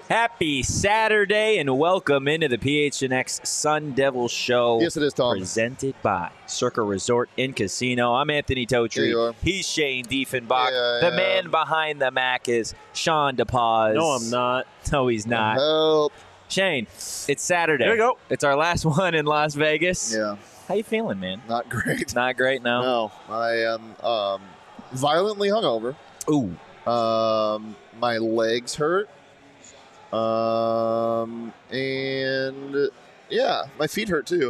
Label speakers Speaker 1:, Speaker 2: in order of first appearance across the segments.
Speaker 1: Happy Saturday and welcome into the PHNX Sun Devil Show.
Speaker 2: Yes, it is, Tom.
Speaker 1: Presented by Circa Resort and Casino. I'm Anthony Totri. He's Shane Diefenbach. The man behind the Mac is Sean DePaz.
Speaker 3: No, I'm not.
Speaker 1: No, he's not.
Speaker 2: Help.
Speaker 1: Shane, it's Saturday.
Speaker 3: Here we go.
Speaker 1: It's our last one in Las Vegas.
Speaker 2: Yeah.
Speaker 1: How you feeling, man?
Speaker 2: Not great.
Speaker 1: Not great, no?
Speaker 2: No. I am violently hungover.
Speaker 1: Ooh.
Speaker 2: My legs hurt. And yeah, my feet hurt too.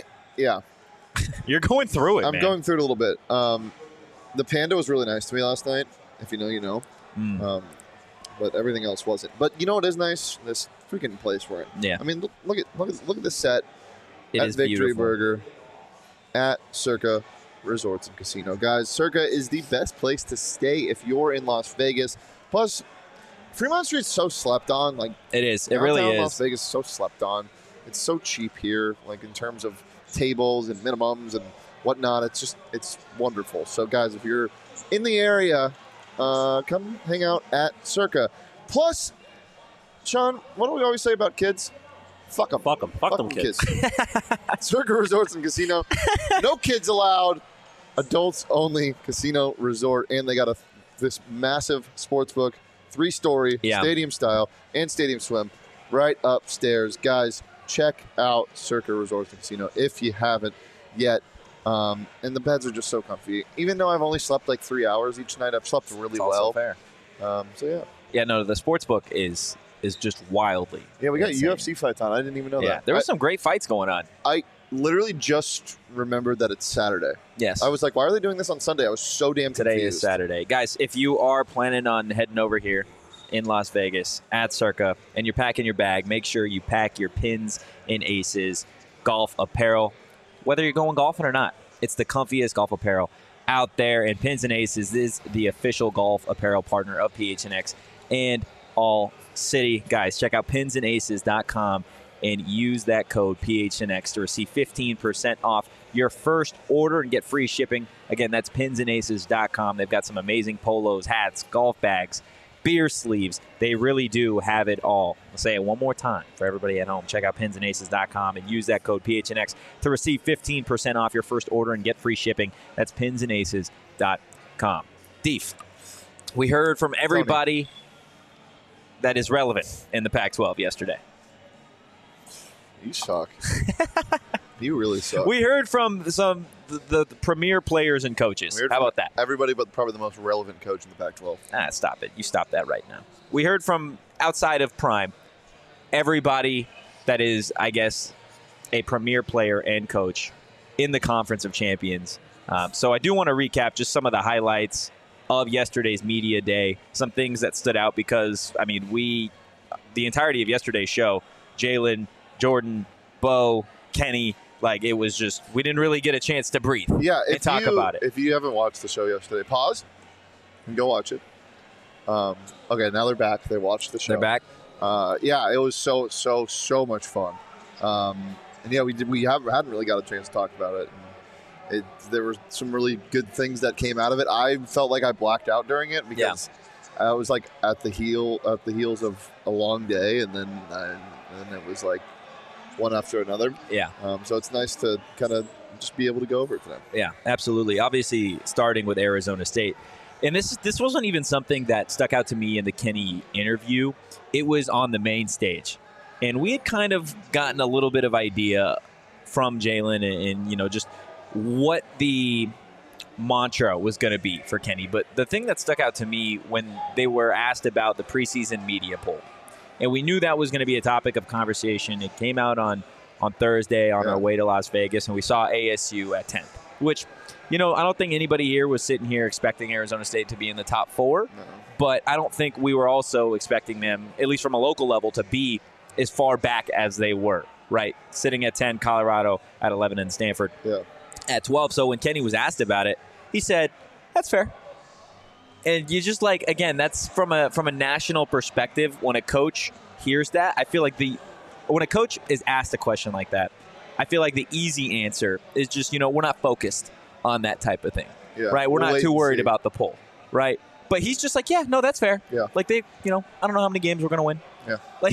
Speaker 1: You're going through it,
Speaker 2: I'm
Speaker 1: man.
Speaker 2: going through it a little bit. The Panda was really nice to me last night. If you know, you know. But everything else wasn't. But you know what is nice? This freaking place we're in.
Speaker 1: Yeah.
Speaker 2: I mean, look at this set
Speaker 1: It
Speaker 2: at
Speaker 1: is
Speaker 2: Victory
Speaker 1: beautiful.
Speaker 2: Burger at Circa Resorts and Casino. Guys, Circa is the best place to stay if you're in Las Vegas. Plus, Fremont Street's so slept on. Like,
Speaker 1: It is. It really
Speaker 2: downtown
Speaker 1: is.
Speaker 2: Las Vegas is so slept on. It's so cheap here, like in terms of tables and minimums and whatnot. It's wonderful. So, guys, if you're in the area, come hang out at Circa. Plus, Sean, what do we always say about kids? Fuck them.
Speaker 3: Fuck them. Fuck them kids.
Speaker 2: Circa Resorts and Casino. No kids allowed. Adults only casino resort. And they got this massive sports book, 3-story, stadium style, and stadium swim right upstairs. Guys, check out Circa Resorts and Casino if you haven't yet. And the beds are just so comfy. Even though I've only slept like 3 hours each night, I've slept really
Speaker 1: It's also
Speaker 2: well.
Speaker 1: fair.
Speaker 2: So yeah.
Speaker 1: Yeah, no, the sports book is just wildly.
Speaker 2: Yeah, we got
Speaker 1: insane.
Speaker 2: UFC fights on. I didn't even know
Speaker 1: Yeah,
Speaker 2: that.
Speaker 1: there were some great fights going on.
Speaker 2: I literally just remembered that it's Saturday.
Speaker 1: Yes.
Speaker 2: I was like, why are they doing this on Sunday? I was so damn confused.
Speaker 1: Today is Saturday. Guys, if you are planning on heading over here in Las Vegas at Circa and you're packing your bag, make sure you pack your pins and aces golf apparel. Whether you're going golfing or not, it's the comfiest golf apparel out there. And Pins and Aces is the official golf apparel partner of PHNX and All City. Guys, check out pinsandaces.com and use that code PHNX to receive 15% off your first order and get free shipping. Again, that's pinsandaces.com. They've got some amazing polos, hats, golf bags, beer sleeves. They really do have it all. I'll say it one more time for everybody at home. Check out pinsandaces.com and use that code PHNX to receive 15% off your first order and get free shipping. That's pinsandaces.com. Deef, we heard from everybody that is relevant in the Pac-12 yesterday.
Speaker 2: You suck. You really suck.
Speaker 1: We heard from the premier players and coaches. How about that?
Speaker 2: Everybody but probably the most relevant coach in the Pac-12.
Speaker 1: Stop it. You stop that right now. We heard from outside of Prime, everybody that is, I guess, a premier player and coach in the Conference of Champions. So I do want to recap just some of the highlights of yesterday's media day, some things that stood out because, I mean, the entirety of yesterday's show, Jalen, Jordan, Bo, Kenny, like it was just, we didn't really get a chance to breathe and talk about it.
Speaker 2: If you haven't watched the show yesterday, pause and go watch it. Okay, now they're back. They watched the show.
Speaker 1: They're back?
Speaker 2: Yeah, it was so much fun. And yeah, we hadn't really got a chance to talk about it. And there were some really good things that came out of it. I felt like I blacked out during it because I was like at the heels of a long day, and then it was like one after another.
Speaker 1: Yeah.
Speaker 2: So it's nice to kind of just be able to go over it today.
Speaker 1: Yeah, absolutely. Obviously, starting with Arizona State. And this wasn't even something that stuck out to me in the Kenny interview. It was on the main stage. And we had kind of gotten a little bit of idea from Jalen and you know, just what the mantra was going to be for Kenny. But the thing that stuck out to me when they were asked about the preseason media poll, and we knew that was going to be a topic of conversation. It came out on Thursday on our way to Las Vegas, and we saw ASU at 10th, which, you know, I don't think anybody here was sitting here expecting Arizona State to be in the top 4, but I don't think we were also expecting them, at least from a local level, to be as far back as they were, right? Sitting at 10, Colorado at 11, and Stanford at 12. So when Kenny was asked about it, he said, that's fair. And you just like, again, that's from a national perspective. When a coach hears that, I feel like when a coach is asked a question like that, I feel like the easy answer is just, you know, we're not focused on that type of thing, right? We're not too worried about the poll, right? But he's just like, yeah, no, that's fair.
Speaker 2: Yeah.
Speaker 1: Like I don't know how many games we're going to win.
Speaker 2: Yeah.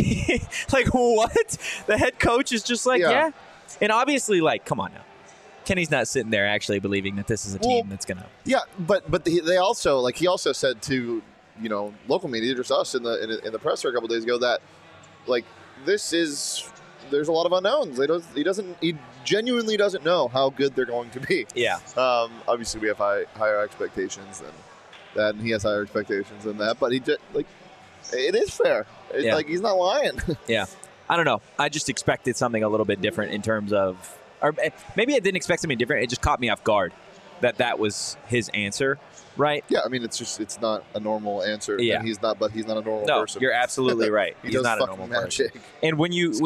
Speaker 1: Like what? The head coach is just like, yeah. And obviously, like, come on now. Kenny's not sitting there actually believing that this is a team that's going to.
Speaker 2: Yeah, but they also, like, he also said to, local media, just us in the presser a couple days ago, that, like, there's a lot of unknowns. He genuinely doesn't know how good they're going to be.
Speaker 1: Yeah.
Speaker 2: Obviously, we have higher expectations than that, and he has higher expectations than that. But he just, like, it is fair. Like, he's not lying.
Speaker 1: Yeah. I don't know. I just expected something a little bit different in terms of, or maybe I didn't expect something different. It just caught me off guard that was his answer, right?
Speaker 2: Yeah, I mean, it's not a normal answer.
Speaker 1: Yeah.
Speaker 2: And he's not a normal person.
Speaker 1: No, you're absolutely right.
Speaker 2: He's
Speaker 1: not a normal
Speaker 2: magic.
Speaker 1: person. And when you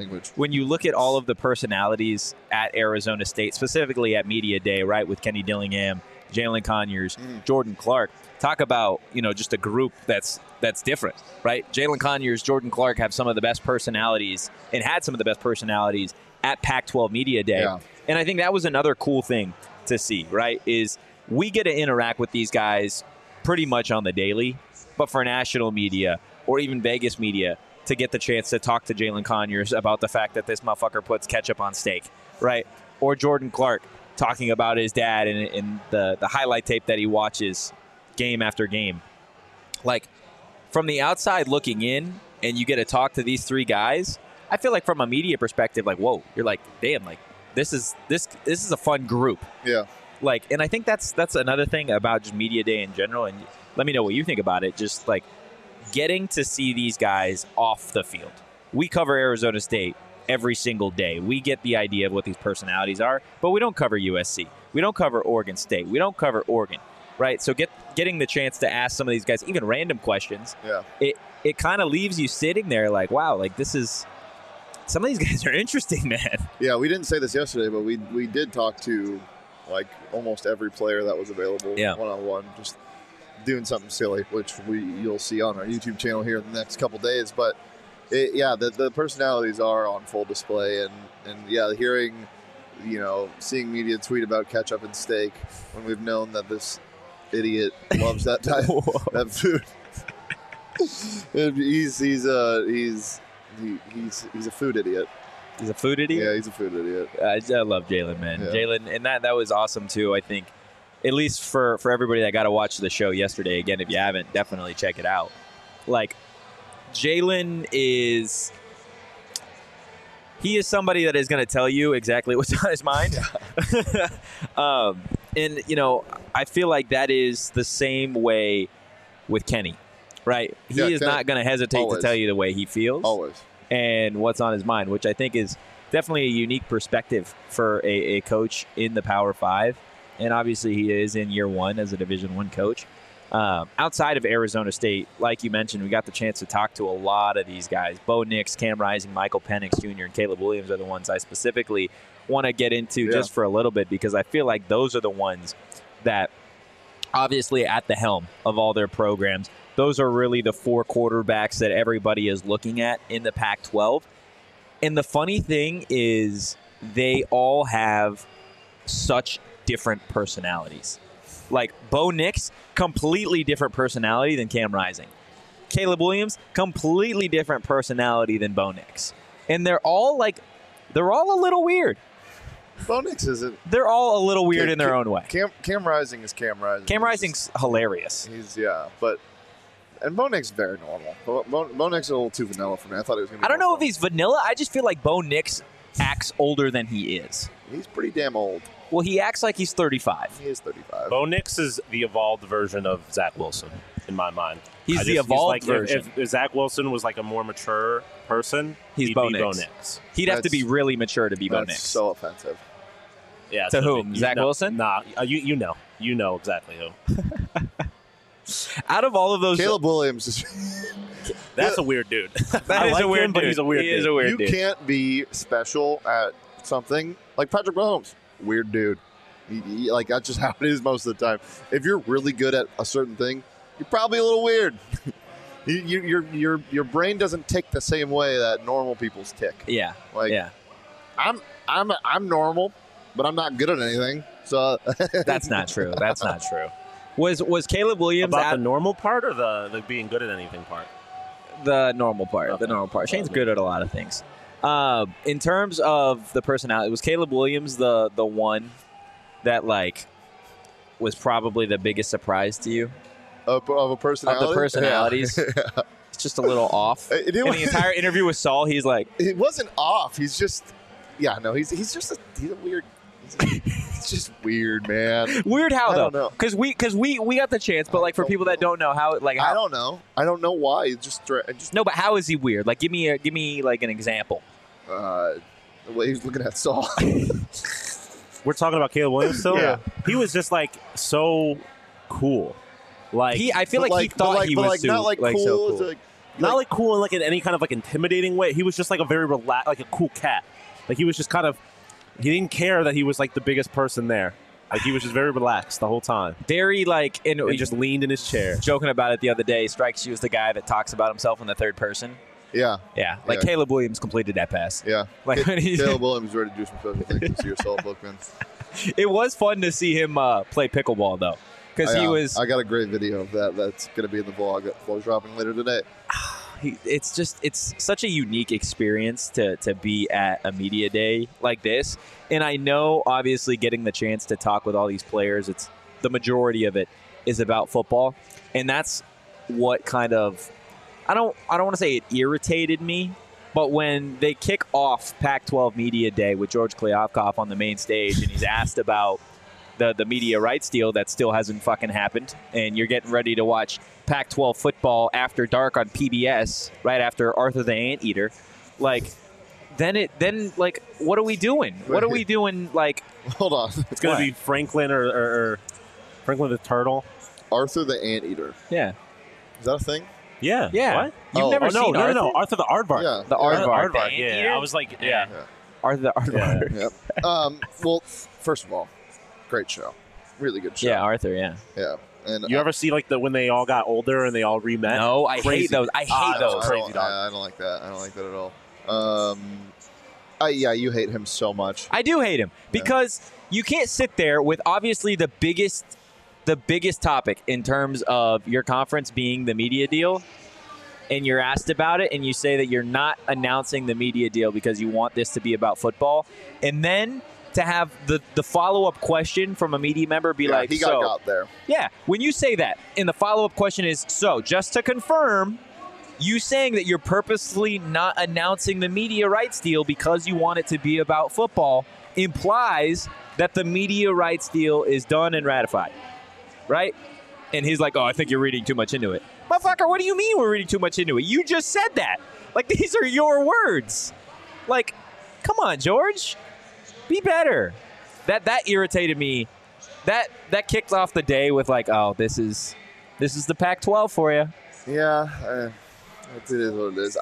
Speaker 1: look at all of the personalities at Arizona State, specifically at Media Day, right, with Kenny Dillingham, Jalen Conyers, Jordan Clark, talk about, just a group that's different, right? Jalen Conyers, Jordan Clark have some of the best personalities and had some of the best personalities at Pac-12 Media Day.
Speaker 2: Yeah.
Speaker 1: And I think that was another cool thing to see, right, is we get to interact with these guys pretty much on the daily, but for national media or even Vegas media to get the chance to talk to Jalen Conyers about the fact that this motherfucker puts ketchup on steak, right? Or Jordan Clark talking about his dad and the highlight tape that he watches game after game. Like, from the outside looking in and you get to talk to these three guys, I feel like from a media perspective, like, whoa, you're like, damn, like, this is a fun group.
Speaker 2: Yeah.
Speaker 1: Like, and I think that's another thing about just Media Day in general, and let me know what you think about it, just like getting to see these guys off the field. We cover Arizona State every single day. We get the idea of what these personalities are, but we don't cover USC. We don't cover Oregon State. We don't cover Oregon, right? So getting the chance to ask some of these guys, even random questions, it kind of leaves you sitting there like, wow, like some of these guys are interesting, man.
Speaker 2: Yeah, we didn't say this yesterday, but we did talk to, like, almost every player that was available one-on-one, just doing something silly, which you'll see on our YouTube channel here in the next couple days. But, the personalities are on full display. And hearing, seeing media tweet about ketchup and steak when we've known that this idiot loves that type that food. He's a food idiot.
Speaker 1: He's a food idiot?
Speaker 2: Yeah, he's a food idiot.
Speaker 1: I love Jalen, man.
Speaker 2: Yeah.
Speaker 1: Jalen, and that was awesome, too, I think. At least for everybody that got to watch the show yesterday. Again, if you haven't, definitely check it out. Like, Jalen is somebody that is going to tell you exactly what's on his mind. And, I feel like that is the same way with Kenny, right? He is not going to hesitate to tell you the way he feels.
Speaker 2: Always.
Speaker 1: And what's on his mind, which I think is definitely a unique perspective for a coach in the Power 5. And obviously he is in year one as a Division I coach. Outside of Arizona State, like you mentioned, we got the chance to talk to a lot of these guys. Bo Nix, Cam Rising, Michael Penix Jr., and Caleb Williams are the ones I specifically want to get into just for a little bit, because I feel like those are the ones that obviously at the helm of all their programs, those are really the four quarterbacks that everybody is looking at in the Pac-12. And the funny thing is they all have such different personalities. Like, Bo Nix, completely different personality than Cam Rising. Caleb Williams, completely different personality than Bo Nix. And they're all a little weird.
Speaker 2: Bo Nix isn't.
Speaker 1: They're all a little weird in their own way.
Speaker 2: Cam Rising is Cam Rising.
Speaker 1: Cam Rising's hilarious.
Speaker 2: And Bo Nix is very normal. Bo Nix is a little too vanilla for me. I thought it was going to be.
Speaker 1: I don't know if he's vanilla. I just feel like Bo Nix acts older than he is.
Speaker 2: He's pretty damn old.
Speaker 1: Well, he acts like he's 35.
Speaker 2: He is 35.
Speaker 3: Bo Nix is the evolved version of Zach Wilson, in my mind.
Speaker 1: He's the evolved version.
Speaker 3: If Zach Wilson was like a more mature person, he'd
Speaker 1: Bo
Speaker 3: be
Speaker 1: Nix.
Speaker 3: Bo Nix.
Speaker 1: He'd have to be really mature to be Bo Nix.
Speaker 2: That's so offensive.
Speaker 3: Yeah.
Speaker 1: To whom? Zach Wilson?
Speaker 3: Nah, you know. You know exactly who.
Speaker 1: Out of all of those...
Speaker 2: Caleb Williams is...
Speaker 3: That's a weird dude.
Speaker 1: That is a weird dude.
Speaker 3: But he's a weird dude.
Speaker 1: He is a weird dude.
Speaker 2: You can't be special at something like Patrick Mahomes. Weird dude. Like, that's just how it is most of the time. If you're really good at a certain thing, you're probably a little weird. Your brain doesn't tick the same way that normal people's tick.
Speaker 1: Yeah.
Speaker 2: I'm normal, but I'm not good at anything. So
Speaker 1: that's not true. That's not true. Was Caleb Williams
Speaker 3: about the normal part or the being good at anything part?
Speaker 1: The normal part. Okay. The normal part. Shane's good at a lot of things. In terms of the personality, was Caleb Williams the one that like was probably the biggest surprise to you?
Speaker 2: Of a personality?
Speaker 1: Of the personalities. Yeah. It's just a little off. In the entire interview with Saul, he's like...
Speaker 2: It wasn't off. He's just... Yeah, no, he's a weird... He's just weird, man.
Speaker 1: Weird how, though? Because we got the chance, but like for people that don't know how... like how,
Speaker 2: I don't know. I don't know why. It's just...
Speaker 1: No, but how is he weird? Like, give me like an example.
Speaker 2: The way he was looking at Saul.
Speaker 4: We're talking about Caleb Williams still?
Speaker 2: Yeah.
Speaker 4: He was just like so cool. Like
Speaker 1: I feel like he thought he was
Speaker 2: not like cool.
Speaker 1: So cool.
Speaker 4: Not like cool in like in any kind of like intimidating way. He was just like a very relaxed, like a cool cat. Like he was just kind of, he didn't care that he was like the biggest person there. Like he was just very relaxed the whole time.
Speaker 1: Very like, and
Speaker 4: he just leaned in his chair.
Speaker 1: Joking about it the other day, strikes you as the guy that talks about himself in the third person.
Speaker 2: Yeah.
Speaker 1: Yeah. Like Caleb Williams completed that pass.
Speaker 2: Yeah.
Speaker 1: Like
Speaker 2: Caleb Williams ready to do some special things to your Saul Bookman.
Speaker 1: It was fun to see him play pickleball though. Because he was.
Speaker 2: I got a great video of that. That's going to be in the vlog that Flo's dropping later today.
Speaker 1: It's such a unique experience to be at a media day like this. And I know, obviously, getting the chance to talk with all these players, it's the majority of it is about football. And that's what kind of, I don't want to say it irritated me, but when they kick off Pac-12 Media Day with George Kliavkoff on the main stage and he's asked about the media rights deal that still hasn't fucking happened, and you're getting ready to watch Pac-12 football after dark on PBS right after Arthur the Anteater, like then what are we doing? What are we doing? Like,
Speaker 2: hold on,
Speaker 4: it's gonna be Franklin or Franklin the Turtle,
Speaker 2: Arthur the Anteater.
Speaker 1: Yeah,
Speaker 2: is that a thing?
Speaker 4: Yeah.
Speaker 1: What? You've never seen Arthur?
Speaker 4: No, Arthur the Aardvark.
Speaker 2: Yeah,
Speaker 1: the Aardvark.
Speaker 4: The yeah, I was like, yeah.
Speaker 1: Arthur the Aardvark.
Speaker 2: Yeah. Yep. Well, first of all, great show, really good show.
Speaker 1: Yeah, Arthur. Yeah.
Speaker 2: And
Speaker 4: you ever see like when they all got older and they all remet?
Speaker 1: No, I hate those. I hate those.
Speaker 2: Crazy dog. I don't like that. I don't like that at all. You hate him so much.
Speaker 1: I do hate him because you can't sit there with obviously the biggest topic in terms of your conference being the media deal, and you're asked about it, and you say that you're not announcing the media deal because you want this to be about football, and then to have the follow-up question from a media member be like,
Speaker 2: he got there.
Speaker 1: Yeah, when you say that, and the follow-up question is, so, just to confirm, you saying that you're purposely not announcing the media rights deal because you want it to be about football implies that the media rights deal is done and ratified, right? And he's like, oh, I think you're reading too much into it. Motherfucker, what do you mean we're reading too much into it? You just said that. Like, these are your words. Like, come on, George. Be better. That irritated me. That kicked off the day with like, oh, this is the Pac-12 for you.
Speaker 2: Yeah, it is what it is.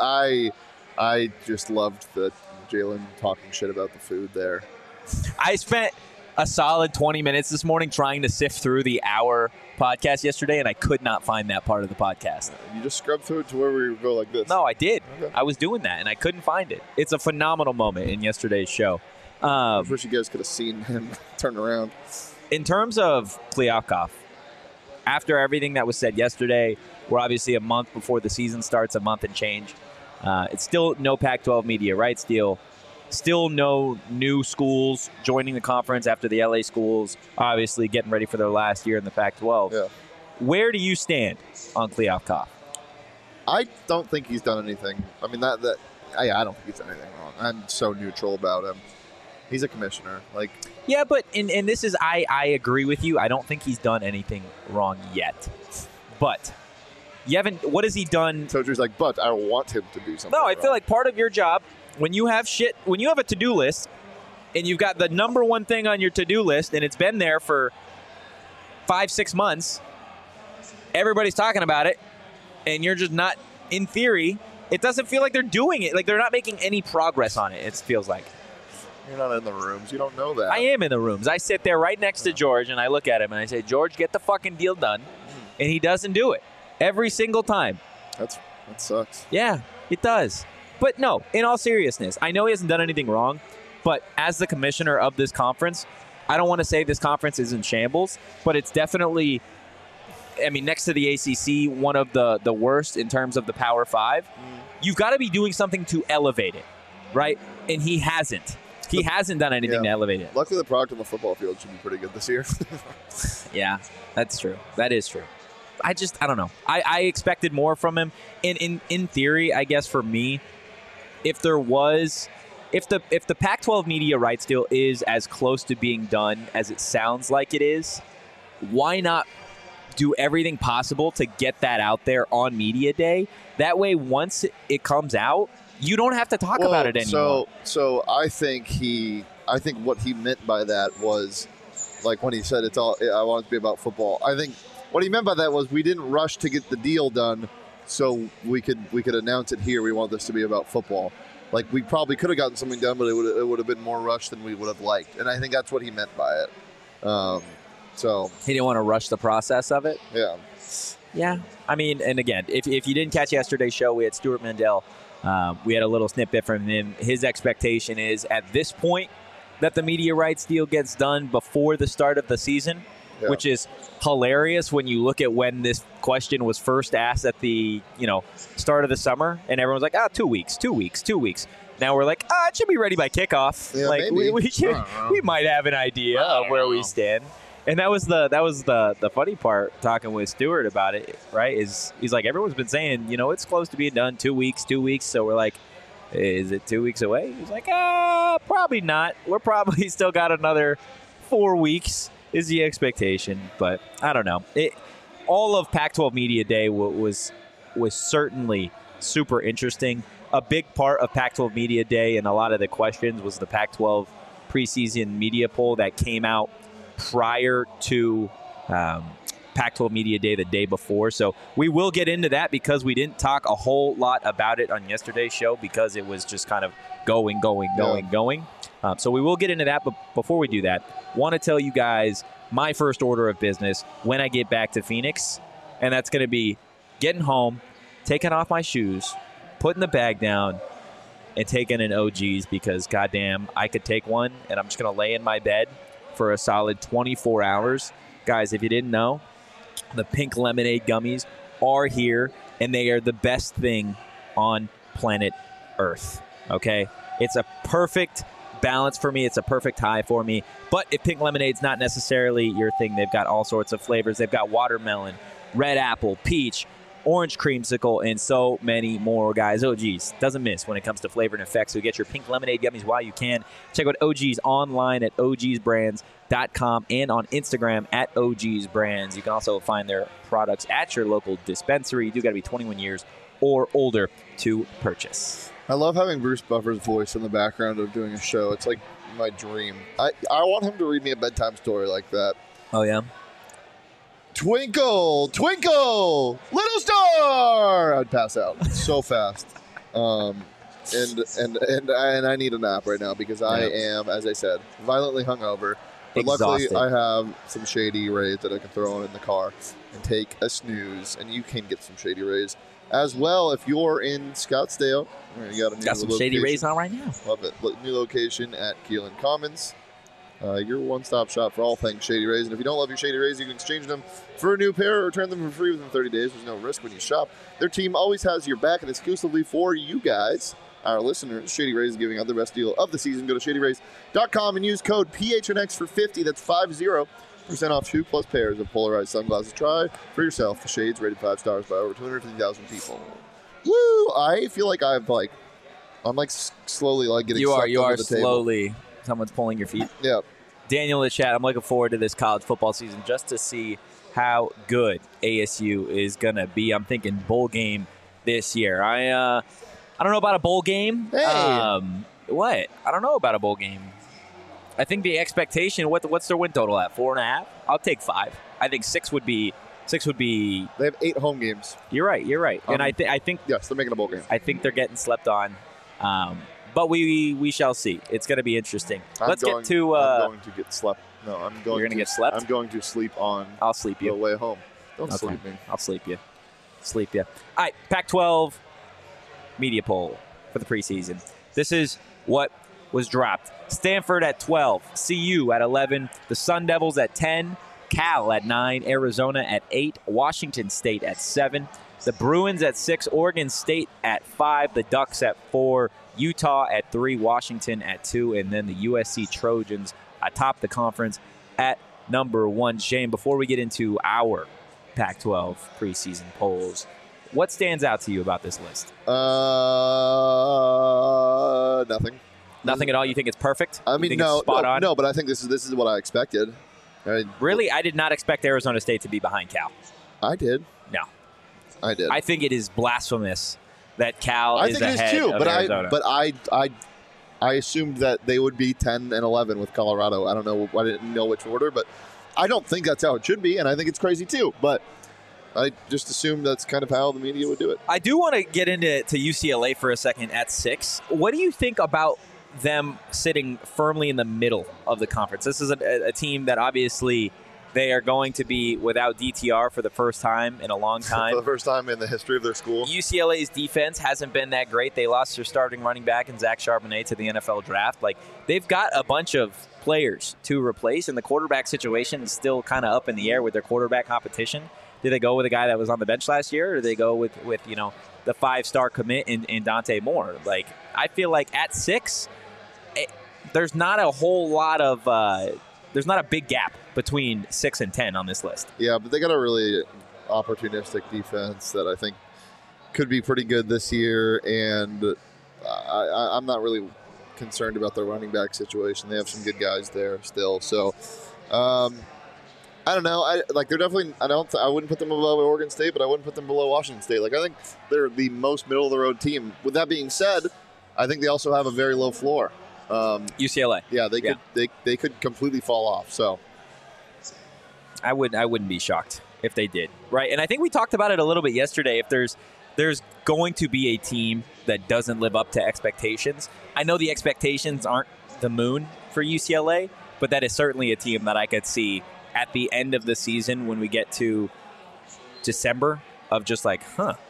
Speaker 2: I just loved the Jalen talking shit about the food there.
Speaker 1: I spent a solid 20 minutes this morning trying to sift through the hour podcast yesterday, and I could not find that part of the podcast.
Speaker 2: You just scrubbed through it to where we go like this.
Speaker 1: No, I did.
Speaker 2: Okay.
Speaker 1: I was doing that, and I couldn't find it. It's a phenomenal moment in yesterday's show.
Speaker 2: I wish you guys could have seen him turn around.
Speaker 1: In terms of Kliavkoff, after everything that was said yesterday, we're obviously a month before the season starts, a month and change. It's still no Pac-12 media rights deal. Still no new schools joining the conference after the LA schools, obviously getting ready for their last year in the Pac-12.
Speaker 2: Yeah.
Speaker 1: Where do you stand on Kliavkoff?
Speaker 2: I don't think he's done anything. I mean, I don't think he's done anything wrong. I'm so neutral about him. He's a commissioner. Like,
Speaker 1: yeah, but and this is I agree with you. I don't think he's done anything wrong yet. But you haven't. What has he done?
Speaker 2: So he's like, but I want him to do something.
Speaker 1: No, I feel like part of your job when you have a to-do list and you've got the number one thing on your to-do list and it's been there for 5-6 months, everybody's talking about it, and you're just not, in theory, it doesn't feel like they're doing it. Like they're not making any progress on it, it feels like.
Speaker 2: You're not in the rooms. You don't know that.
Speaker 1: I am in the rooms. I sit there right next to George, and I look at him, and I say, George, get the fucking deal done. And he doesn't do it. Every single time.
Speaker 2: That sucks.
Speaker 1: Yeah, it does. But no, in all seriousness, I know he hasn't done anything wrong, but as the commissioner of this conference, I don't want to say this conference is in shambles, but it's definitely I mean, next to the ACC, one of the worst in terms of the Power Five. You've got to be doing something to elevate it, right? And he hasn't. He hasn't done anything to elevate it.
Speaker 2: Luckily, the product on the football field should be pretty good this year.
Speaker 1: Yeah, that's true. That is true. I don't know. I expected more from him. And in theory, I guess for me, if the Pac-12 media rights deal is as close to being done as it sounds like it is, why not do everything possible to get that out there on media day? That way, once it comes out, you don't have to talk about it anymore.
Speaker 2: So I think what he meant by that was, like when he said I want it to be about football. I think what he meant by that was we didn't rush to get the deal done, so we could announce it here. We want this to be about football. Like, we probably could have gotten something done, but it would have been more rushed than we would have liked. And I think that's what he meant by it. So
Speaker 1: he didn't want to rush the process of it.
Speaker 2: Yeah.
Speaker 1: Yeah. I mean, and again, if you didn't catch yesterday's show, we had Stuart Mandel. We had a little snippet from him. His expectation is at this point that the media rights deal gets done before the start of the season, which is hilarious when you look at when this question was first asked at the start of the summer, and everyone's like, 2 weeks. Now we're like, it should be ready by kickoff.
Speaker 2: Yeah,
Speaker 1: like
Speaker 2: maybe.
Speaker 1: we might have an idea of where we stand. And that was the funny part talking with Stuart about it, right? Is he's like, everyone's been saying, it's close to being done 2 weeks. So we're like, is it 2 weeks away? He's like, probably not. We're probably still got another 4 weeks is the expectation, but I don't know. All of Pac-12 Media Day was certainly super interesting. A big part of Pac-12 Media Day and a lot of the questions was the Pac-12 preseason media poll that came out prior to Pac-12 Media Day the day before. So we will get into that because we didn't talk a whole lot about it on yesterday's show because it was just kind of going. So we will get into that, but before we do that, want to tell you guys my first order of business when I get back to Phoenix, and that's going to be getting home, taking off my shoes, putting the bag down, and taking an OG's because, goddamn, I could take one, and I'm just going to lay in my bed for a solid 24 hours. Guys, if you didn't know, the pink lemonade gummies are here, and they are the best thing on planet Earth, okay? It's a perfect balance for me. It's a perfect high for me. But if pink lemonade's not necessarily your thing, they've got all sorts of flavors. They've got watermelon, red apple, peach, orange creamsicle, and so many more, guys. OG's doesn't miss when it comes to flavor and effects. So get your pink lemonade gummies while you can. Check out OG's online at ogsbrands.com and on Instagram at ogsbrands. You can also find their products at your local dispensary. You do got to be 21 years or older to purchase.
Speaker 2: I love having Bruce Buffer's voice in the background of doing a show. It's like my dream. I want him to read me a bedtime story like that.
Speaker 1: Oh, yeah?
Speaker 2: Twinkle, twinkle, little star! I'd pass out so fast. And I need a nap right now because I am, as I said, violently hungover. But
Speaker 1: Exhausted.
Speaker 2: luckily, I have some Shady Rays that I can throw in the car and take a snooze. And you can get some Shady Rays as well if you're in Scottsdale. You got a new
Speaker 1: Got some
Speaker 2: location.
Speaker 1: Shady Rays on right now.
Speaker 2: Love it. New location at Keelan Commons. Your one-stop shop for all things Shady Rays. And if you don't love your Shady Rays, you can exchange them for a new pair or return them for free within 30 days. There's no risk when you shop. Their team always has your back, and exclusively for you guys, our listeners, Shady Rays is giving out the best deal of the season. Go to shadyrays.com and use code PHNX for 50. That's 50% off 2+ pairs of polarized sunglasses. Try for yourself the shades rated 5 stars by over 250,000 people. Woo! I feel like I'm slowly getting
Speaker 1: You are
Speaker 2: the
Speaker 1: slowly.
Speaker 2: Table.
Speaker 1: Someone's pulling your feet.
Speaker 2: Yeah.
Speaker 1: Daniel in the chat, I'm looking forward to this college football season just to see how good ASU is going to be. I'm thinking bowl game this year. I don't know about a bowl game.
Speaker 2: Hey.
Speaker 1: What? I don't know about a bowl game. I think the expectation, what's their win total at? 4.5? I'll take 5. I think 6 would be.
Speaker 2: They have 8 home games.
Speaker 1: You're right. And I think
Speaker 2: yes, they're making a bowl game.
Speaker 1: I think they're getting slept on. But we shall see. It's going to be interesting.
Speaker 2: I'm going to get slept. No, I'm going.
Speaker 1: You're going to get slept?
Speaker 2: I'm going to sleep on.
Speaker 1: I'll sleep you.
Speaker 2: The way home. Don't
Speaker 1: Okay.
Speaker 2: sleep me.
Speaker 1: I'll sleep you. All right, Pac-12 media poll for the preseason. This is what was dropped. Stanford at 12, CU at 11, the Sun Devils at 10, Cal at 9, Arizona at 8, Washington State at 7, the Bruins at 6, Oregon State at 5, the Ducks at 4, Utah at 3, Washington at 2, and then the USC Trojans atop the conference at number 1. Shane, before we get into our Pac-12 preseason polls, what stands out to you about this list?
Speaker 2: Nothing.
Speaker 1: Nothing at all? You think it's perfect?
Speaker 2: I mean,
Speaker 1: no,
Speaker 2: but I think this is what I expected.
Speaker 1: Really? I did not expect Arizona State to be behind Cal.
Speaker 2: I did.
Speaker 1: No.
Speaker 2: I did.
Speaker 1: I think it is blasphemous that Cal
Speaker 2: I
Speaker 1: is
Speaker 2: think
Speaker 1: ahead
Speaker 2: it is too,
Speaker 1: of Arizona.
Speaker 2: But I assumed that they would be 10 and 11 with Colorado. I don't know. I didn't know which order, but I don't think that's how it should be, and I think it's crazy too. But I just assumed that's kind of how the media would do it.
Speaker 1: I do want to get into UCLA for a second at 6. What do you think about them sitting firmly in the middle of the conference? This is a team that obviously they are going to be without DTR for the first time in a long time.
Speaker 2: For the first time in the history of their school.
Speaker 1: UCLA's defense hasn't been that great. They lost their starting running back in Zach Charbonnet to the NFL draft. Like, they've got a bunch of players to replace, and the quarterback situation is still kind of up in the air with their quarterback competition. Did they go with a guy that was on the bench last year, or do they go with the 5-star commit in Dante Moore? Like, I feel like at 6, there's not a whole lot of there's not a big gap between 6 and 10 on this list.
Speaker 2: Yeah, but they got a really opportunistic defense that I think could be pretty good this year, and I'm not really concerned about their running back situation. They have some good guys there still, so I don't know. They're definitely. I wouldn't put them above Oregon State, but I wouldn't put them below Washington State. Like, I think they're the most middle of the road team. With that being said, I think they also have a very low floor.
Speaker 1: UCLA.
Speaker 2: Yeah, they could completely fall off. So
Speaker 1: I wouldn't be shocked if they did. Right, and I think we talked about it a little bit yesterday. If there's going to be a team that doesn't live up to expectations, I know the expectations aren't the moon for UCLA, but that is certainly a team that I could see at the end of the season when we get to December of just like,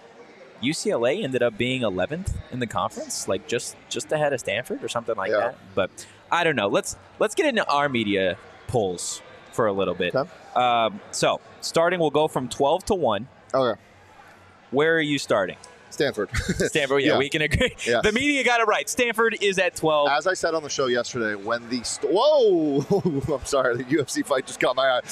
Speaker 1: UCLA ended up being 11th in the conference, like just ahead of Stanford or something like that. But I don't know. Let's get into our media polls for a little bit.
Speaker 2: Okay.
Speaker 1: So starting, we'll go from 12 to 1. Okay. Where are you starting?
Speaker 2: Stanford.
Speaker 1: Stanford, yeah, we can agree. Yeah. The media got it right. Stanford is at 12.
Speaker 2: As I said on the show yesterday, when the whoa, I'm sorry, the UFC fight just caught my eye.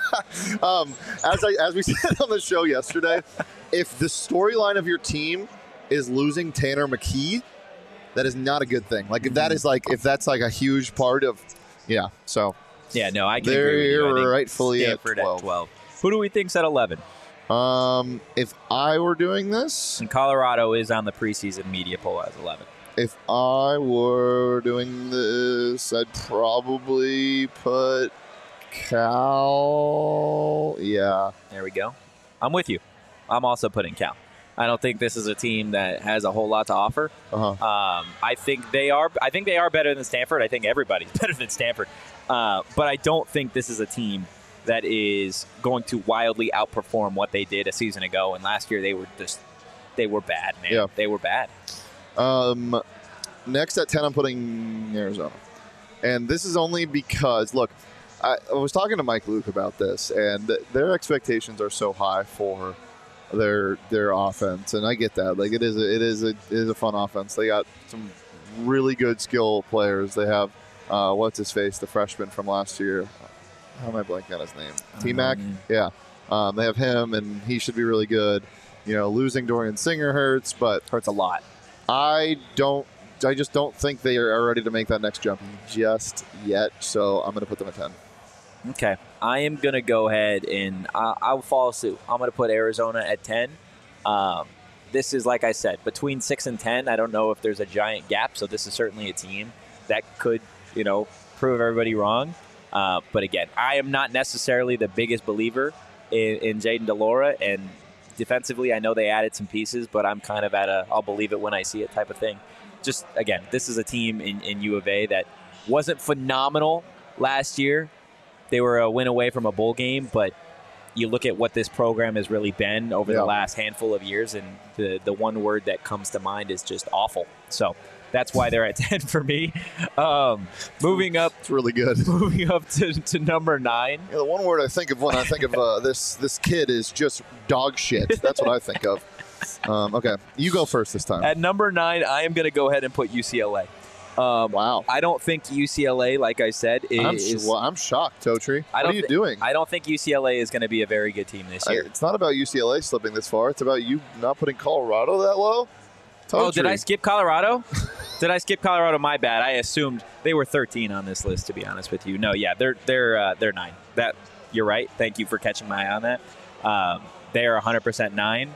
Speaker 2: As we said on the show yesterday, if the storyline of your team is losing Tanner McKee, that is not a good thing. Like, if that's a huge part of, so
Speaker 1: yeah, no, I can agree with you.
Speaker 2: They're rightfully
Speaker 1: Stanford
Speaker 2: at 12.
Speaker 1: Who do we think's at 11?
Speaker 2: If I were doing this,
Speaker 1: and Colorado is on the preseason media poll as 11.
Speaker 2: If I were doing this, I'd probably put Cal. Yeah,
Speaker 1: there we go. I'm with you. I'm also putting Cal. I don't think this is a team that has a whole lot to offer. I think they are. I think they are better than Stanford. I think everybody's better than Stanford. But I don't think this is a team that is going to wildly outperform what they did a season ago. And last year they were bad, man. Yeah. They were bad.
Speaker 2: Next at 10, I'm putting Arizona. And this is only because, look, I was talking to Mike Luke about this, and their expectations are so high for their offense, and I get that. Like, it is a fun offense. They got some really good skill players. They have what's his face, the freshman from last year. How am I blanking on his name? T-Mac? Yeah. They have him, and he should be really good. Losing Dorian Singer hurts, but
Speaker 1: hurts a lot.
Speaker 2: I just don't think they are ready to make that next jump just yet, so I'm going to put them at 10.
Speaker 1: Okay. I am going to go ahead and I'll follow suit. I'm going to put Arizona at 10. This is, like I said, between 6 and 10. I don't know if there's a giant gap, so this is certainly a team that could, prove everybody wrong. But again, I am not necessarily the biggest believer in Jayden de Laura, and defensively, I know they added some pieces, but I'm kind of at I'll believe it when I see it type of thing. Just, again, this is a team in U of A that wasn't phenomenal last year. They were a win away from a bowl game, but you look at what this program has really been over the last handful of years, and the one word that comes to mind is just awful. So That's why they're at 10 for me. Moving up,
Speaker 2: It's really good.
Speaker 1: moving up to number 9.
Speaker 2: Yeah, the one word I think of when I think of this kid is just dog shit. That's what I think of. Okay, you go first this time.
Speaker 1: At number 9, I am going to go ahead and put UCLA.
Speaker 2: Wow.
Speaker 1: I don't think UCLA, like I said, is.
Speaker 2: I'm shocked, Totri. What are you doing?
Speaker 1: I don't think UCLA is going to be a very good team this year.
Speaker 2: It's not about UCLA slipping this far. It's about you not putting Colorado that low. Totri.
Speaker 1: Oh, did I skip Colorado? Did I skip Colorado? My bad. I assumed they were 13 on this list. To be honest with you, no, yeah, they're 9. That you're right. Thank you for catching my eye on that. They are 100% 9.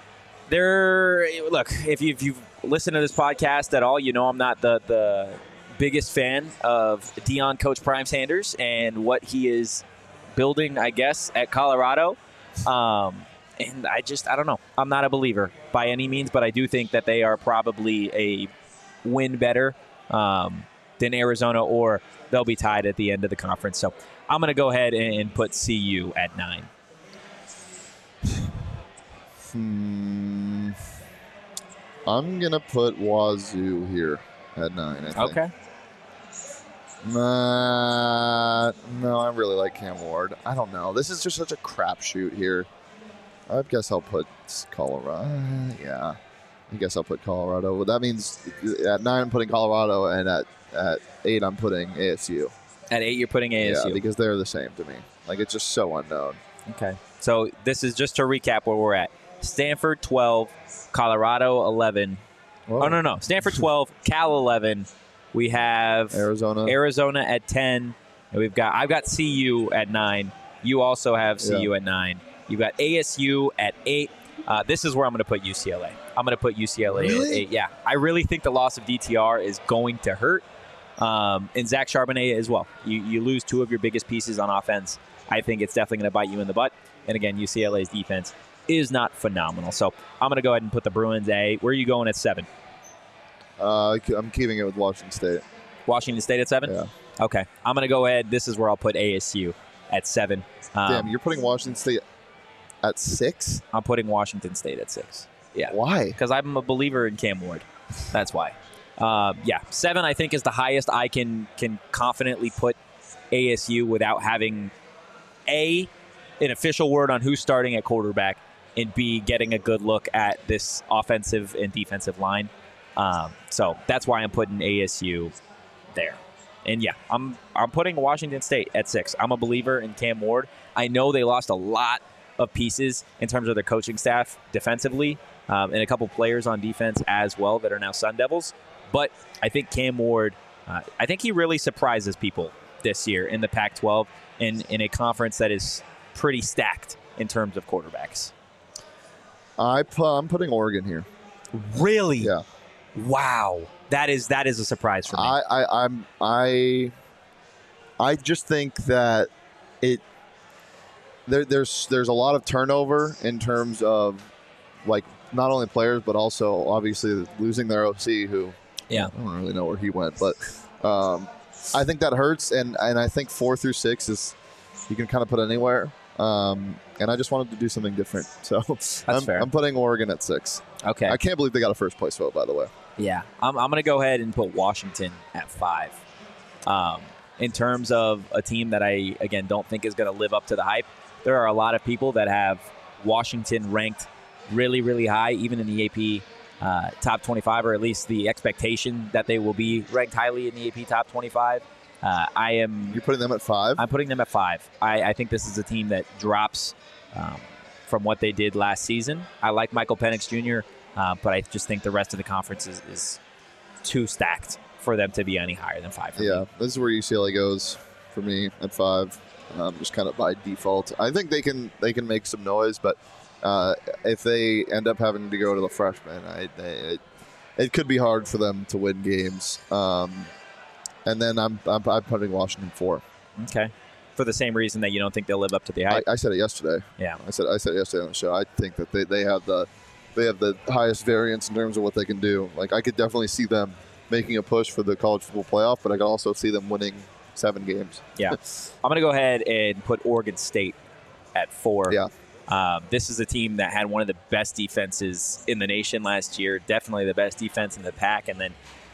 Speaker 1: Look, if you've listened to this podcast at all, you know I'm not the biggest fan of Deion Coach Prime Sanders and what he is building, I guess, at Colorado. And I don't know. I'm not a believer by any means, but I do think that they are probably a win better than Arizona, or they'll be tied at the end of the conference. So I'm going to go ahead and put CU at 9.
Speaker 2: I'm going to put Wazoo here at 9, I think.
Speaker 1: Okay.
Speaker 2: No, I really like Cam Ward. I don't know. This is just such a crapshoot here. I guess I'll put Colorado. Yeah. I guess I'll put Colorado. Well, that means at 9 I'm putting Colorado, and at 8 I'm putting ASU.
Speaker 1: At 8 you're putting ASU.
Speaker 2: Yeah, because they're the same to me. Like, it's just so unknown.
Speaker 1: Okay. So this is just to recap where we're at. Stanford 12, Colorado 11.
Speaker 2: Whoa.
Speaker 1: Oh, no. Stanford 12, Cal 11. We have Arizona at 10. And I've got CU at 9. You also have CU at 9. You've got ASU at 8. This is where I'm going to put UCLA. I'm going to put UCLA at 8. Yeah. I really think the loss of DTR is going to hurt. And Zach Charbonnet as well. You lose 2 of your biggest pieces on offense. I think it's definitely going to bite you in the butt. And again, UCLA's defense is not phenomenal. So I'm going to go ahead and put the Bruins A. Where are you going at 7?
Speaker 2: I'm keeping it with Washington State.
Speaker 1: Washington State at 7?
Speaker 2: Yeah.
Speaker 1: Okay. I'm going to go ahead. This is where I'll put ASU at 7.
Speaker 2: Damn, you're putting Washington State at 6?
Speaker 1: I'm putting Washington State at 6. Yeah.
Speaker 2: Why?
Speaker 1: Because I'm a believer in Cam Ward. That's why. 7 I think is the highest I can confidently put ASU without having A, an official word on who's starting at quarterback, and B, getting a good look at this offensive and defensive line. So that's why I'm putting ASU there. And yeah, I'm putting Washington State at 6. I'm a believer in Cam Ward. I know they lost a lot of pieces in terms of their coaching staff defensively, and a couple players on defense as well that are now Sun Devils. But I think Cam Ward, I think he really surprises people this year in the Pac-12 in a conference that is pretty stacked in terms of quarterbacks.
Speaker 2: I'm putting Oregon here.
Speaker 1: Really?
Speaker 2: Yeah.
Speaker 1: Wow. That is a surprise for me.
Speaker 2: I just think that there's a lot of turnover in terms of, like, not only players but also obviously losing their OC, who I don't really know where he went, but I think that hurts, and I think 4 through 6 is you can kind of put anywhere. And I just wanted to do something different, so I'm putting Oregon at 6.
Speaker 1: Okay.
Speaker 2: I can't believe they got a first place vote, by the way.
Speaker 1: Yeah, I'm going to go ahead and put Washington at 5. In terms of a team that I, again, don't think is going to live up to the hype, there are a lot of people that have Washington ranked really, really high, even in the AP top 25, or at least the expectation that they will be ranked highly in the AP top 25. You're
Speaker 2: putting them at 5?
Speaker 1: I'm putting them at 5. I think this is a team that drops from what they did last season. I like Michael Penix Jr., but I just think the rest of the conference is too stacked for them to be any higher than 5 for me.
Speaker 2: This is where UCLA goes for me at 5, just kind of by default. I think they can make some noise, but if they end up having to go to the freshmen, it could be hard for them to win games. And then I'm putting Washington 4.
Speaker 1: Okay. For the same reason that you don't think they'll live up to the hype.
Speaker 2: I said it yesterday.
Speaker 1: Yeah.
Speaker 2: I said it yesterday on the show. I think that they have the highest variance in terms of what they can do. Like, I could definitely see them making a push for the college football playoff, but I could also see them winning 7 games.
Speaker 1: Yeah. I'm going to go ahead and put Oregon State at 4.
Speaker 2: Yeah.
Speaker 1: This is a team that had one of the best defenses in the nation last year, definitely the best defense in the pack, and then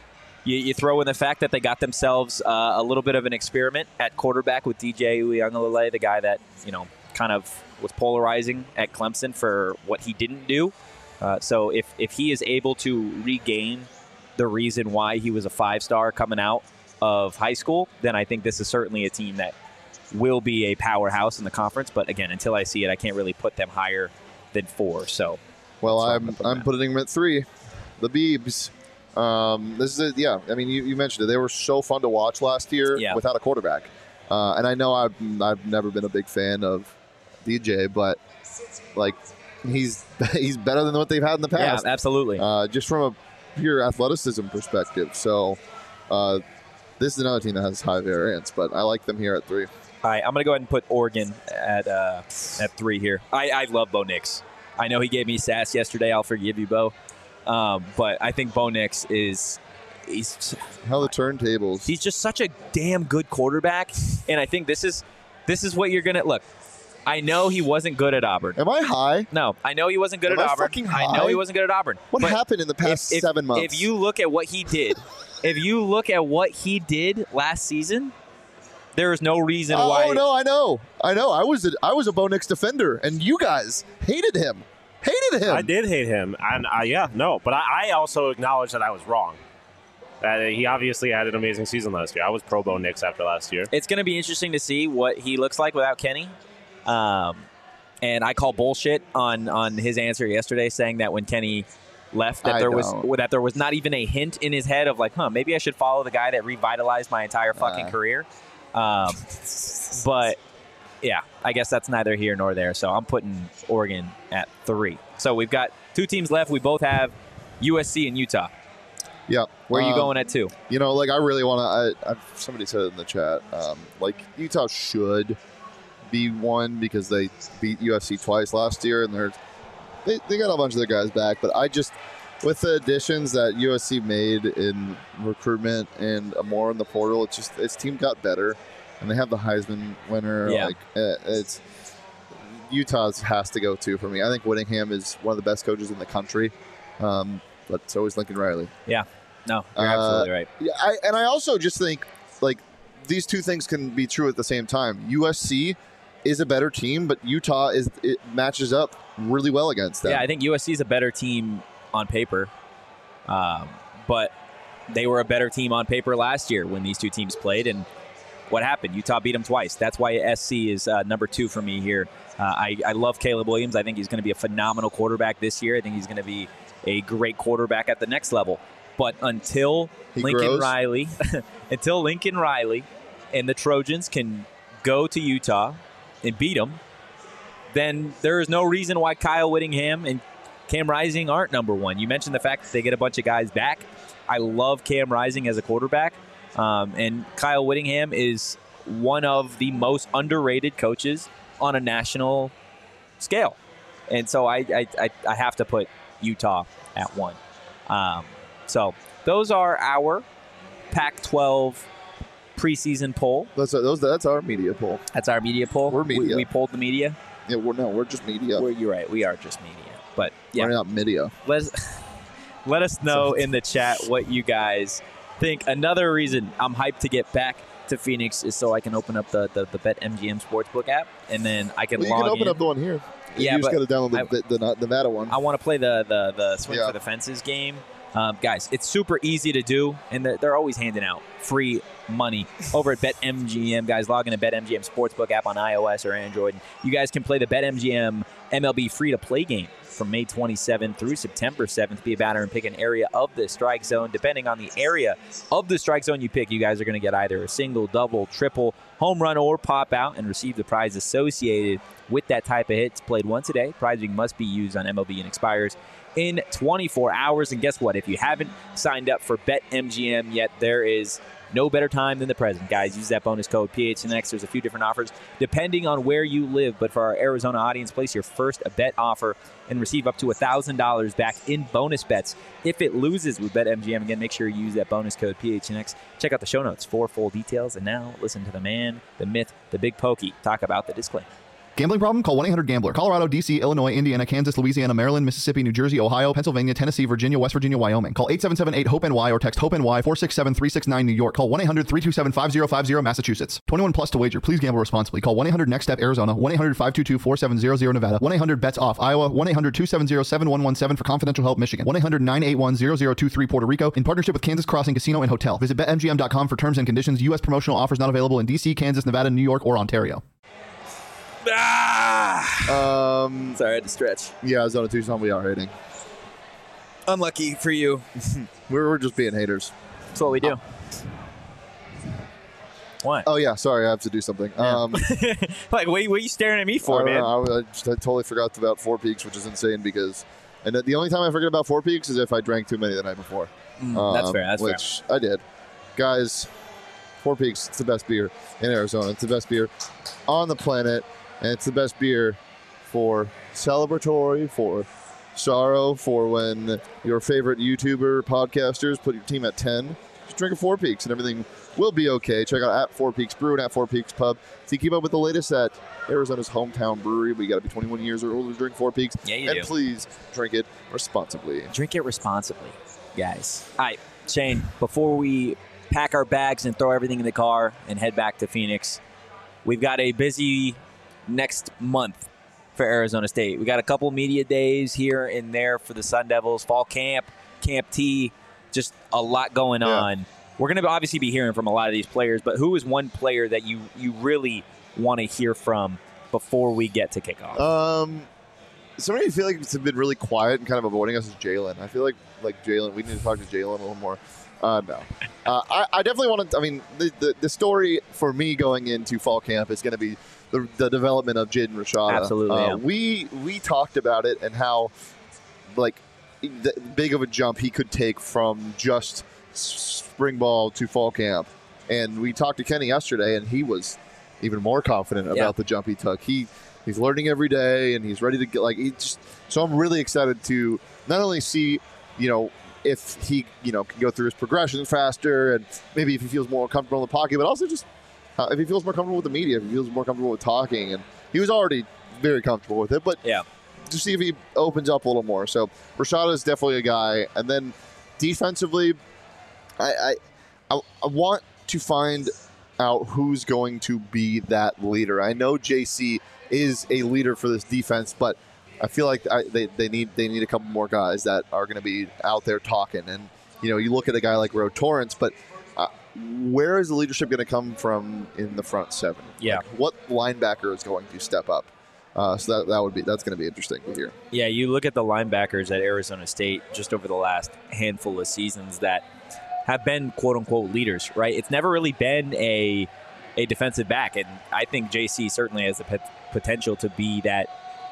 Speaker 1: You throw in the fact that they got themselves a little bit of an experiment at quarterback with DJ Uiagalelei, the guy that kind of was polarizing at Clemson for what he didn't do. So if he is able to regain the reason why he was a 5-star coming out of high school, then I think this is certainly a team that will be a powerhouse in the conference. But again, until I see it, I can't really put them higher than 4. So,
Speaker 2: well, I'm putting them at 3. The Beebs. This is I mean, you mentioned it. They were so fun to watch last year without a quarterback. And I know I've never been a big fan of DJ, but like he's better than what they've had in the past.
Speaker 1: Yeah, absolutely.
Speaker 2: Just from a pure athleticism perspective. So this is another team that has high variance, but I like them here at 3.
Speaker 1: All right, I'm going to go ahead and put Oregon at 3 here. I love Bo Nix. I know he gave me sass yesterday. I'll forgive you, Bo. But I think Bo Nix he's
Speaker 2: how the turntables.
Speaker 1: He's just such a damn good quarterback, and I think this is what you're gonna look. I know he wasn't good at Auburn.
Speaker 2: Am I high?
Speaker 1: No, I know he wasn't good at Auburn.
Speaker 2: Fucking high?
Speaker 1: I know he wasn't good at Auburn.
Speaker 2: What happened in the past 7 months?
Speaker 1: If you look at what he did, last season, there is no reason why.
Speaker 2: Oh no, I know. I was a Bo Nix defender, and you guys hated him.
Speaker 4: I did hate him, and but I also acknowledge that I was wrong. He obviously had an amazing season last year. I was pro Bo Nix after last year.
Speaker 1: It's going to be interesting to see what he looks like without Kenny. And I call bullshit on his answer yesterday, saying that when Kenny left, that there was not even a hint in his head of like, maybe I should follow the guy that revitalized my entire fucking career. But yeah, I guess that's neither here nor there. So I'm putting Oregon at 3. So we've got 2 teams left. We both have USC and Utah.
Speaker 2: Yeah.
Speaker 1: Where are you going at 2?
Speaker 2: I really want to. Somebody said it in the chat. Utah should be 1 because they beat USC twice last year, and they got a bunch of their guys back. But with the additions that USC made in recruitment and more in the portal, its team got better. And they have the Heisman winner.
Speaker 1: Yeah.
Speaker 2: It's Utah's has to go 2 for me. I think Whittingham is one of the best coaches in the country, but so is Lincoln Riley.
Speaker 1: Yeah, no, you're absolutely right.
Speaker 2: Yeah, I also just think these 2 things can be true at the same time. USC is a better team, but Utah matches up really well against them.
Speaker 1: Yeah, I think USC is a better team on paper, but they were a better team on paper last year when these 2 teams played, and what happened? Utah beat them twice. That's why SC is number 2 for me here. I love Caleb Williams. I think he's going to be a phenomenal quarterback this year. I think he's going to be a great quarterback at the next level. But until Lincoln Riley and the Trojans can go to Utah and beat them, then there is no reason why Kyle Whittingham and Cam Rising aren't number 1. You mentioned the fact that they get a bunch of guys back. I love Cam Rising as a quarterback. And Kyle Whittingham is one of the most underrated coaches on a national scale. And so I have to put Utah at 1. So those are our Pac-12 preseason poll.
Speaker 2: That's our media poll.
Speaker 1: That's our media poll.
Speaker 2: We're media.
Speaker 1: We polled the media.
Speaker 2: Yeah, we're just media.
Speaker 1: You're right. We are just media. But yeah,
Speaker 2: we're not media.
Speaker 1: Let us know in the chat what you guys think. Another reason I'm hyped to get back to Phoenix is so I can open up the BetMGM Sportsbook app, and then I can log in.
Speaker 2: You can open up the one here.
Speaker 1: Yeah,
Speaker 2: you just got to download the Nevada one.
Speaker 1: I want to play the Swing for the Fences game. Guys, it's super easy to do, and they're always handing out free money over at BetMGM. Guys, log in to BetMGM Sportsbook app on iOS or Android. You guys can play the BetMGM MLB free-to-play game from May 27th through September 7th. Be a batter and pick an area of the strike zone. Depending on the area of the strike zone you pick, you guys are going to get either a single, double, triple, home run, or pop out and receive the prize associated with that type of hit. It's played once a day. Prizing must be used on MLB and expires in 24 hours. And guess what? If you haven't signed up for BetMGM yet, there is no better time than the present. Guys, use that bonus code PHNX. There's a few different offers depending on where you live. But for our Arizona audience, place your first bet offer and receive up to $1,000 back in bonus bets if it loses with BetMGM. Again, make sure you use that bonus code PHNX. Check out the show notes for full details. And now listen to the man, the myth, the big pokey talk about the disclaimer.
Speaker 5: Gambling problem? Call 1-800-GAMBLER. Colorado, D.C., Illinois, Indiana, Kansas, Louisiana, Maryland, Mississippi, New Jersey, Ohio, Pennsylvania, Tennessee, Virginia, West Virginia, Wyoming. Call 877-8-HOPE-NY or text HOPE-NY 467-369 New York. Call 1-800-327-5050 Massachusetts. 21 plus to wager. Please gamble responsibly. Call 1-800-NEXT-STEP Arizona. 1-800-522-4700 Nevada. 1-800-BETS-OFF Iowa. 1-800-270-7117 for confidential help Michigan. 1-800-981-0023 Puerto Rico. In partnership with Kansas Crossing Casino and Hotel. Visit BetMGM.com for terms and conditions. U.S. promotional offers not available in D.C., Kansas, Nevada, New York, or Ontario.
Speaker 1: Sorry, I had to stretch.
Speaker 2: Yeah, Arizona Tucson, we are hating.
Speaker 1: Unlucky for you.
Speaker 2: We're just being haters.
Speaker 1: That's what we do. What?
Speaker 2: Oh, yeah, sorry, I have to do something.
Speaker 1: Yeah. Like, what are you staring at me for, man?
Speaker 2: I totally forgot about Four Peaks, which is insane because the only time I forget about Four Peaks is if I drank too many the night before.
Speaker 1: That's fair.
Speaker 2: Which I did. Guys, Four Peaks, it's the best beer in Arizona. It's the best beer on the planet. And it's the best beer for celebratory, for sorrow, for when your favorite YouTuber podcasters put your team at 10. Just drink a Four Peaks and everything will be okay. Check out at Four Peaks Brew and at Four Peaks Pub to keep up with the latest at Arizona's hometown brewery. We got to be 21 years or older to drink Four Peaks.
Speaker 1: Yeah, you
Speaker 2: and
Speaker 1: do.
Speaker 2: Please drink it responsibly.
Speaker 1: Drink it responsibly, guys. All right, Shane, before we pack our bags and throw everything in the car and head back to Phoenix, we've got a busy next month for Arizona State. We got a couple media days here and there for the Sun Devils, fall camp, Camp T, just a lot going on. We're going to obviously be hearing from a lot of these players, but who is one player that you really want to hear from before we get to kickoff?
Speaker 2: Somebody I feel like it's been really quiet and kind of avoiding us is Jalen. I feel like Jalen, we need to talk to Jalen a little more. No. I definitely want to, I mean, the story for me going into fall camp is going to be the development of Jaden Rashada.
Speaker 1: Absolutely. Yeah.
Speaker 2: We talked about it and how, big of a jump he could take from just spring ball to fall camp. And we talked to Kenny yesterday, and he was even more confident about the jump he took. He's learning every day, and he's ready to get, so I'm really excited to not only see, if he, can go through his progression faster and maybe if he feels more comfortable in the pocket, but also just if he feels more comfortable with the media, if he feels more comfortable with talking. And he was already very comfortable with it, but to see if he opens up a little more. So Rashada is definitely a guy. And then defensively, I want to find out who's going to be that leader. I know JC is a leader for this defense, but I feel like they need a couple more guys that are going to be out there talking. And you look at a guy like Ro Torrance, but where is the leadership going to come from in the front seven?
Speaker 1: Yeah,
Speaker 2: what linebacker is going to step up? So that's going to be interesting to hear.
Speaker 1: Yeah, you look at the linebackers at Arizona State just over the last handful of seasons that have been quote unquote leaders, right? It's never really been a defensive back, and I think JC certainly has the potential to be that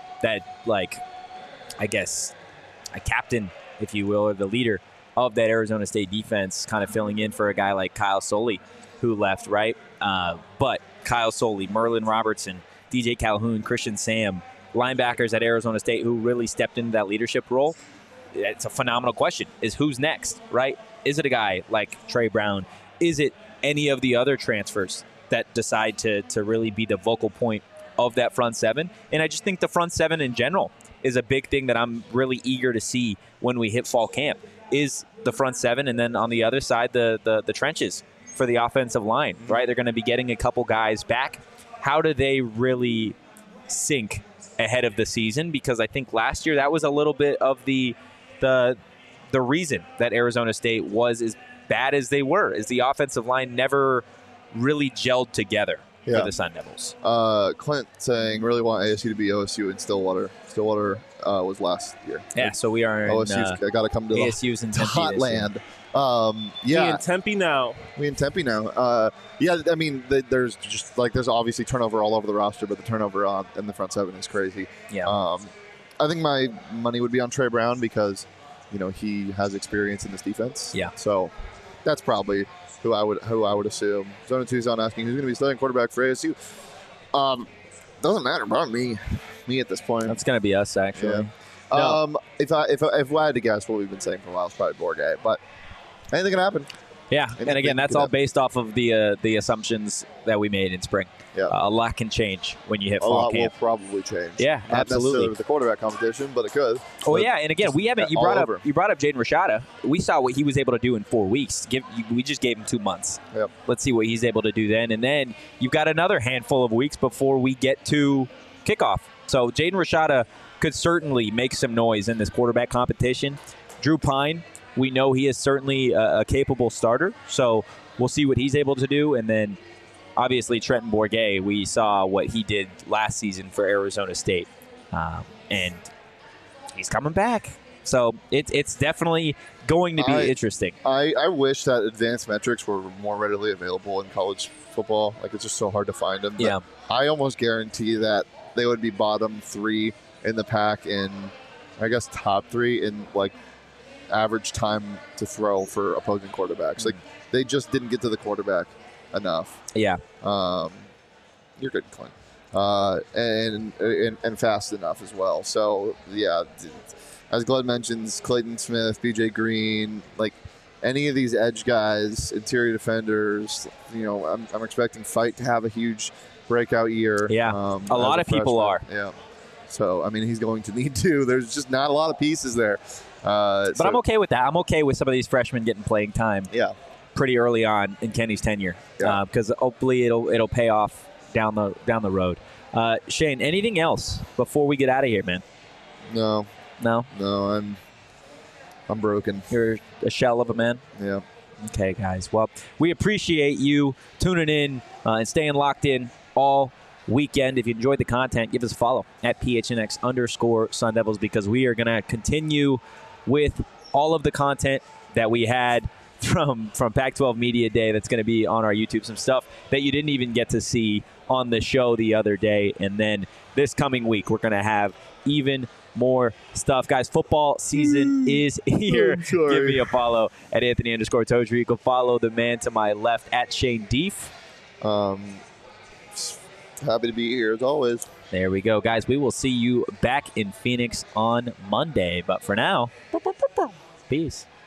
Speaker 1: I guess a captain, if you will, or the leader of that Arizona State defense, kind of filling in for a guy like Kyle Soley who left, right? But Kyle Soley, Merlin Robertson, DJ Calhoun, Christian Sam, linebackers at Arizona State who really stepped into that leadership role. It's a phenomenal question, is who's next, right? Is it a guy like Trey Brown? Is it any of the other transfers that decide to really be the vocal point of that front seven? And I just think the front seven in general is a big thing that I'm really eager to see when we hit fall camp, is the front seven, and then on the other side, the trenches for the offensive line, right? They're going to be getting a couple guys back. How do they really sync ahead of the season? Because I think last year that was a little bit of the reason that Arizona State was as bad as they were, is the offensive line never really gelled together for the Sun Devils.
Speaker 2: Clint saying, really want ASU to be OSU in Stillwater. Stillwater was last year.
Speaker 1: Yeah, so we are in
Speaker 2: OSU's got to come to
Speaker 1: ASU's in Tempe
Speaker 2: hot land.
Speaker 4: We in Tempe now.
Speaker 2: I mean, there's obviously turnover all over the roster, but the turnover in the front seven is crazy.
Speaker 1: Yeah.
Speaker 2: I think my money would be on Trey Brown because, he has experience in this defense.
Speaker 1: Yeah.
Speaker 2: So that's probably who I would assume. Zona 2's on asking who's going to be starting quarterback for ASU. Doesn't matter about me at this point.
Speaker 1: That's going to be us, actually.
Speaker 2: Yeah. If I had to guess, what we've been saying for a while is probably Bourget, but anything can happen.
Speaker 1: Yeah, and again, that's all based off of the assumptions that we made in spring.
Speaker 2: Yeah.
Speaker 1: A lot can change when you hit
Speaker 2: A
Speaker 1: fall
Speaker 2: lot
Speaker 1: camp.
Speaker 2: will probably change.
Speaker 1: Yeah,
Speaker 2: Not
Speaker 1: absolutely.
Speaker 2: necessarily with the quarterback competition, but it could.
Speaker 1: Oh
Speaker 2: But
Speaker 1: yeah, and again, we haven't. You
Speaker 2: all
Speaker 1: brought
Speaker 2: over.
Speaker 1: up Jaden Rashada. We saw what he was able to do in 4 weeks. We just gave him 2 months.
Speaker 2: Yep.
Speaker 1: Let's see what he's able to do then, and then you've got another handful of weeks before we get to kickoff. So Jaden Rashada could certainly make some noise in this quarterback competition. Drew Pine, we know he is certainly a capable starter. So we'll see what he's able to do, and then. Obviously, Trenton Bourguet, we saw what he did last season for Arizona State, and he's coming back. So it's definitely going to be interesting.
Speaker 2: I wish that advanced metrics were more readily available in college football. Like, it's just so hard to find them.
Speaker 1: Yeah.
Speaker 2: I almost guarantee that they would be bottom 3 in the pack in, I guess, top 3 in, like, average time to throw for opposing quarterbacks. Like, they just didn't get to the quarterback enough.
Speaker 1: Yeah.
Speaker 2: You're good, Clint. And fast enough as well. So, yeah, as Glenn mentions, Clayton Smith, BJ Green, like any of these edge guys, interior defenders, I'm expecting Fight to have a huge breakout year.
Speaker 1: Yeah, a lot of people are.
Speaker 2: Yeah. So, I mean, he's going to need to. There's just not a lot of pieces there.
Speaker 1: But I'm okay with that. I'm okay with some of these freshmen getting playing time.
Speaker 2: Yeah.
Speaker 1: Pretty early on in Kenny's tenure, because hopefully it'll pay off down the road. Shane, anything else before we get out of here, man?
Speaker 2: No, I'm broken.
Speaker 1: You're a shell of a man.
Speaker 2: Yeah.
Speaker 1: Okay, guys. Well, we appreciate you tuning in and staying locked in all weekend. If you enjoyed the content, give us a follow at PHNX_Sun Devils, because we are going to continue with all of the content that we had from Pac-12 Media Day that's going to be on our YouTube. Some stuff that you didn't even get to see on the show the other day. And then this coming week, we're going to have even more stuff. Guys, football season is here. Give me a follow at Anthony_Tozer. You can follow the man to my left at Shane Deef.
Speaker 2: Happy to be here as always.
Speaker 1: There we go, guys. We will see you back in Phoenix on Monday. But for now, peace.